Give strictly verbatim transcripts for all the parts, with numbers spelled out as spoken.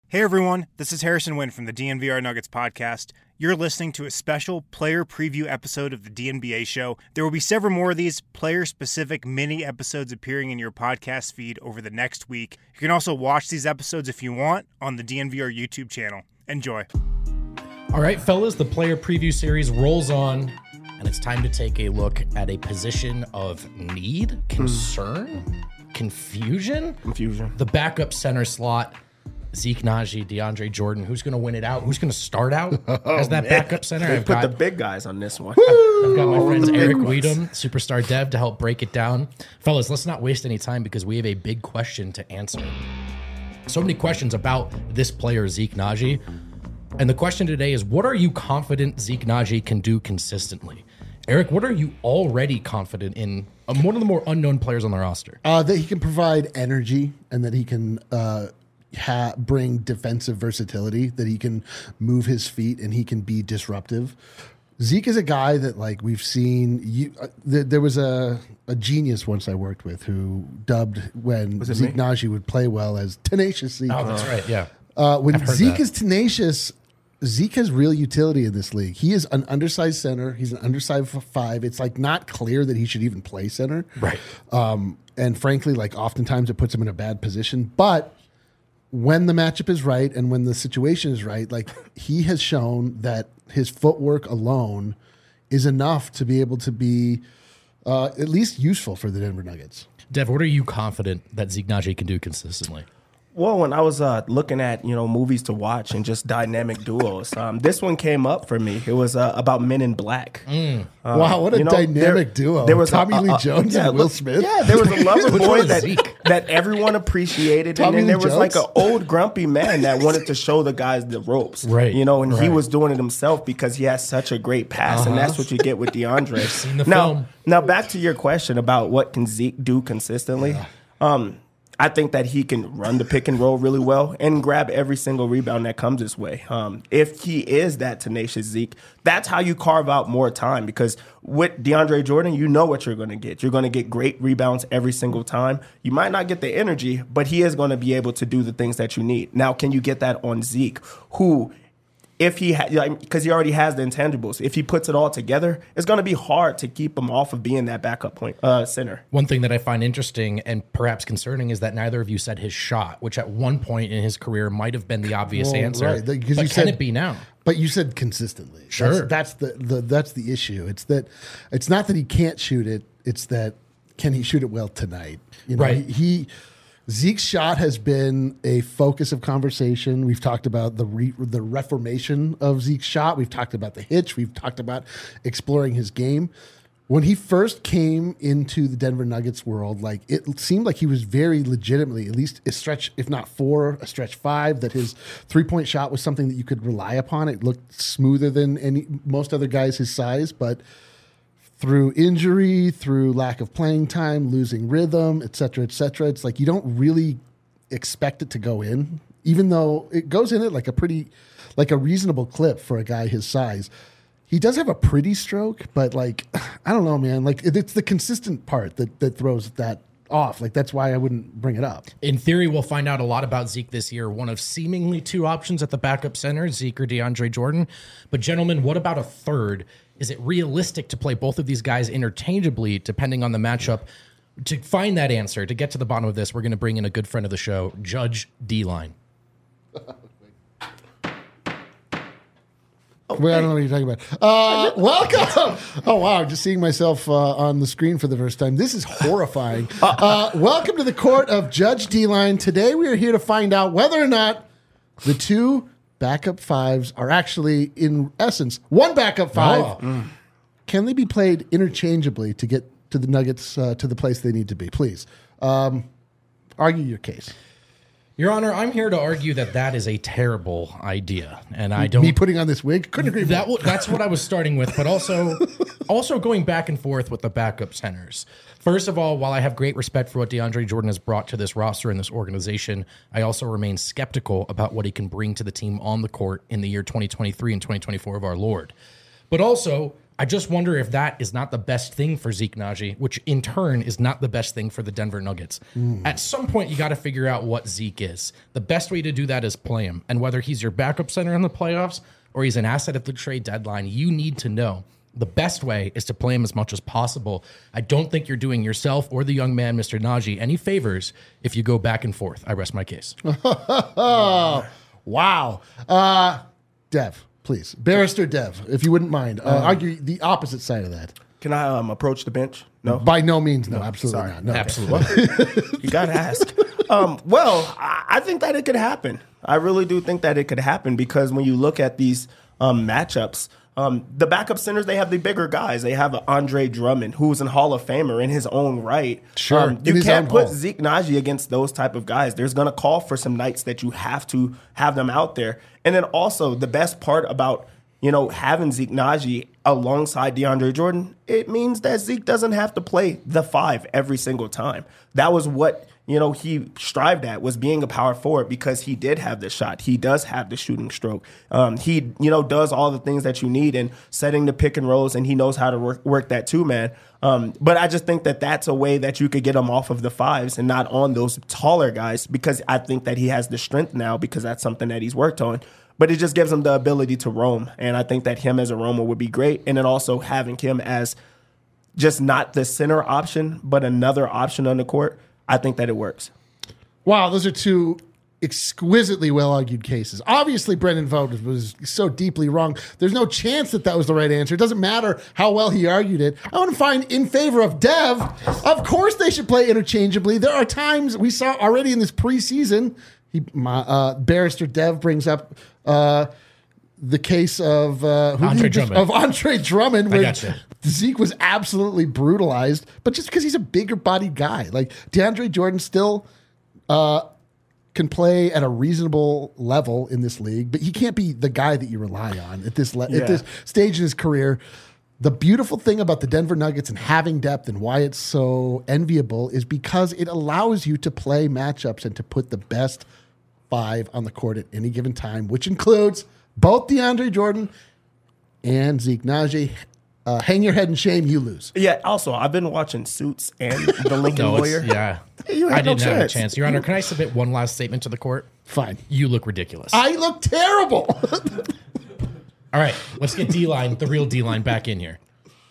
Hey everyone, this is Harrison Wynn from the D N V R Nuggets podcast. You're listening to a special player preview episode of the D N B A show. There will be several more of these player-specific mini episodes appearing in your podcast feed over the next week. You can also watch these episodes if you want on the D N V R YouTube channel. Enjoy. All right, fellas, the player preview series rolls on, and it's time to take a look at a position of need, concern, mm. confusion. Confusion. The backup center slot. Zeke Nnaji, DeAndre Jordan. Who's going to win it out? Who's going to start out oh, as that man. backup center? They I've put got, the big guys on this one. I've got my friends the Eric Weedham, Superstar Dev, to help break it down. Fellas, let's not waste any time because we have a big question to answer. So many questions about this player, Zeke Nnaji. And the question today is, what are you confident Zeke Nnaji can do consistently? Eric, what are you already confident in? Um, one of the more unknown players on the roster. Uh, that he can provide energy and that he can uh, ha- bring defensive versatility, that he can move his feet and he can be disruptive. Zeke is a guy that, like, we've seen. You, uh, th- there was a, a genius once I worked with who dubbed when Zeke Nnaji would play well as Tenacious Zeke. Oh, that's right, yeah. Uh, when Zeke that. is tenacious, Zeke has real utility in this league. He is an undersized center. He's an undersized five. It's like not clear that he should even play center. Right. Um, and frankly, like oftentimes it puts him in a bad position. But when the matchup is right and when the situation is right, like he has shown that his footwork alone is enough to be able to be uh, at least useful for the Denver Nuggets. Dev, what are you confident that Zeke Nnaji can do consistently? Well, when I was uh, looking at, you know, movies to watch and just dynamic duos, um, this one came up for me. It was uh, about Men in Black. Mm. Um, wow, what a you know, dynamic there, duo. There was Tommy a, Lee a, Jones yeah, and Will look, Smith. Yeah, there was a lover boy that, Zeke? that everyone appreciated. Tommy and then Lee there was Jones? like an old grumpy man that wanted to show the guys the ropes. Right. You know, and right. he was doing it himself because he has such a great pass. Uh-huh. And that's what you get with DeAndre. Seen the now, film. now, back to your question about what can Zeke do consistently. Yeah. Um, I think that he can run the pick and roll really well and grab every single rebound that comes his way. Um, if he is that tenacious Zeke, that's how you carve out more time, because with DeAndre Jordan, you know what you're going to get. You're going to get great rebounds every single time. You might not get the energy, but he is going to be able to do the things that you need. Now, can you get that on Zeke, who... If he, because like, he already has the intangibles, if he puts it all together, it's going to be hard to keep him off of being that backup point uh, center. One thing that I find interesting and perhaps concerning is that neither of you said his shot, which at one point in his career might have been the obvious well, answer. Right. But you can said, it be now? But you said consistently. Sure, that's, that's the, the that's the issue. It's that it's not that he can't shoot it. It's that can he shoot it well tonight? You know, right. He. he Zeke's shot has been a focus of conversation. We've talked about the re, the reformation of Zeke's shot. We've talked about the hitch. We've talked about exploring his game. When he first came into the Denver Nuggets world, like it seemed like he was very legitimately, at least a stretch, if not four, a stretch five, that his three-point shot was something that you could rely upon. It looked smoother than any most other guys his size, but through injury, through lack of playing time, losing rhythm, et cetera, et cetera, it's like you don't really expect it to go in, even though it goes in at like a pretty, like a reasonable clip for a guy his size. He does have a pretty stroke, but like, I don't know, man. Like it's the consistent part that that throws that off. Like that's why I wouldn't bring it up. In theory, we'll find out a lot about Zeke this year. One of seemingly two options at the backup center, Zeke or DeAndre Jordan. But gentlemen, what about a third? Is it realistic to play both of these guys interchangeably depending on the matchup? To find that answer, to get to the bottom of this, we're going to bring in a good friend of the show, Judge D-Line. Okay. Wait, I don't know what you're talking about. Uh, welcome. Oh, wow. Just seeing myself uh, on the screen for the first time. This is horrifying. Uh, welcome to the court of Judge D-Line. Today we are here to find out whether or not the two backup fives are actually, in essence, one backup five. Oh. Mm. Can they be played interchangeably to get to the Nuggets uh, to the place they need to be? Please um, argue your case. Your Honor, I'm here to argue that that is a terrible idea, and I don't. Me putting on this wig couldn't agree that more. W- that's what I was starting with, but also, also going back and forth with the backup centers. First of all, while I have great respect for what DeAndre Jordan has brought to this roster and this organization, I also remain skeptical about what he can bring to the team on the court in the year twenty twenty-three and twenty twenty-four of our Lord. But also, I just wonder if that is not the best thing for Zeke Nnaji, which in turn is not the best thing for the Denver Nuggets. Mm. At some point, you got to figure out what Zeke is. The best way to do that is play him. And whether he's your backup center in the playoffs or he's an asset at the trade deadline, you need to know. The best way is to play him as much as possible. I don't think you're doing yourself or the young man, Mister Nnaji, any favors if you go back and forth. I rest my case. Wow. Uh, Dev. Please, Barrister Dev, if you wouldn't mind, uh, um, argue the opposite side of that. Can I um, approach the bench? No, by no means. No, no absolutely sorry. not. No, absolutely. You gotta ask. Um, well, I, I think that it could happen. I really do think that it could happen because when you look at these um, matchups, um, the backup centers, they have the bigger guys. They have Andre Drummond, who's an Hall of Famer in his own right. Sure, um, you can't put Zeke Nnaji against those type of guys. There's gonna call for some nights that you have to have them out there. And then also the best part about, you know, having Zeke Nnaji alongside DeAndre Jordan, it means that Zeke doesn't have to play the five every single time. That was what, you know, he strived at, was being a power forward because he did have the shot. He does have the shooting stroke. Um, he, you know, does all the things that you need in setting the pick and rolls, and he knows how to work, work that too, man. Um, but I just think that that's a way that you could get him off of the fives and not on those taller guys, because I think that he has the strength now because that's something that he's worked on. But it just gives him the ability to roam. And I think that him as a roamer would be great. And then also having him as just not the center option, but another option on the court, I think that it works. Wow, those are two exquisitely well-argued cases. Obviously, Brendan Vogt was so deeply wrong. There's no chance that that was the right answer. It doesn't matter how well he argued it. I want to find in favor of Dev. Of course they should play interchangeably. There are times we saw already in this preseason, he, my, uh, Barrister Dev brings up uh, the case of uh, who Andre just, Drummond. of Andre Drummond, where gotcha. Zeke was absolutely brutalized, but just because he's a bigger bodied guy, like DeAndre Jordan still uh, can play at a reasonable level in this league, but he can't be the guy that you rely on at this le- yeah. at this stage in his career. The beautiful thing about the Denver Nuggets and having depth and why it's so enviable is because it allows you to play matchups and to put the best five on the court at any given time, which includes both DeAndre Jordan and Zeke Nnaji. Uh, hang your head in shame, you lose. Yeah, also, I've been watching Suits and The Lincoln No, Lawyer. it's- yeah. You I had no didn't have a chance. chance. Your Honor, can I submit one last statement to the court? Fine. You look ridiculous. I look terrible. All right, let's get D-Line, the real D-Line, back in here.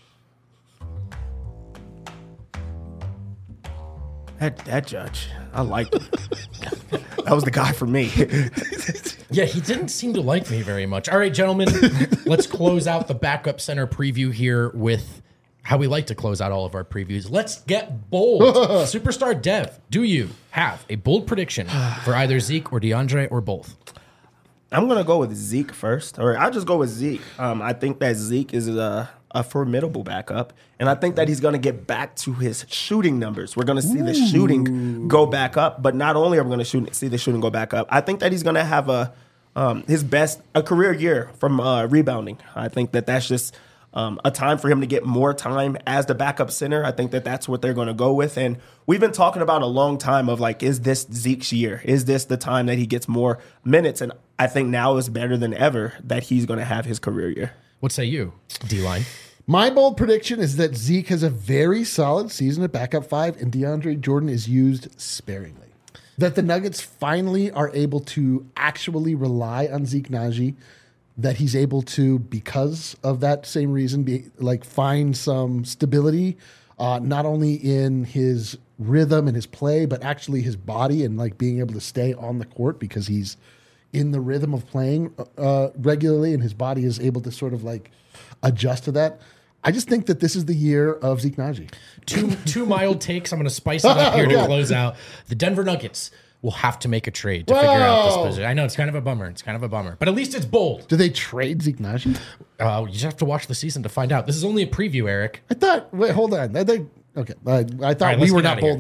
That, that judge, I liked him. That was the guy for me. Yeah, he didn't seem to like me very much. All right, gentlemen, let's close out the backup center preview here with how we like to close out all of our previews. Let's get bold. Superstar Dev, do you have a bold prediction for either Zeke or DeAndre or both? I'm going to go with Zeke first, or I'll just go with Zeke. Um, I think that Zeke is a, a formidable backup, and I think that he's going to get back to his shooting numbers. We're going to see Ooh. the shooting go back up, but not only are we going to shoot, see the shooting go back up, I think that he's going to have a um, his best a career year from uh, rebounding. I think that that's just um, a time for him to get more time as the backup center. I think that that's what they're going to go with, and we've been talking about a long time of like, is this Zeke's year? Is this the time that he gets more minutes? And I think now is better than ever that he's going to have his career year. What say you, D-Line? My bold prediction is that Zeke has a very solid season at backup five, and DeAndre Jordan is used sparingly. That the Nuggets finally are able to actually rely on Zeke Nnaji, that he's able to, because of that same reason, be like find some stability, uh, not only in his rhythm and his play, but actually his body and like being able to stay on the court because he's in the rhythm of playing uh, regularly, and his body is able to sort of like adjust to that. I just think that this is the year of Zeke Nnaji. Two two mild takes. I'm going to spice it up here to close out. The Denver Nuggets will have to make a trade to Whoa. figure out this position. I know it's kind of a bummer. It's kind of a bummer, but at least it's bold. Do they trade Zeke Nnaji? Uh, you just have to watch the season to find out. This is only a preview, Eric. I thought. Wait, hold on. I think. Okay, I, I thought right, we let's were get not outta bold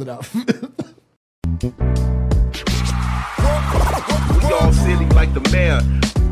here. enough. We all silly like the mayor.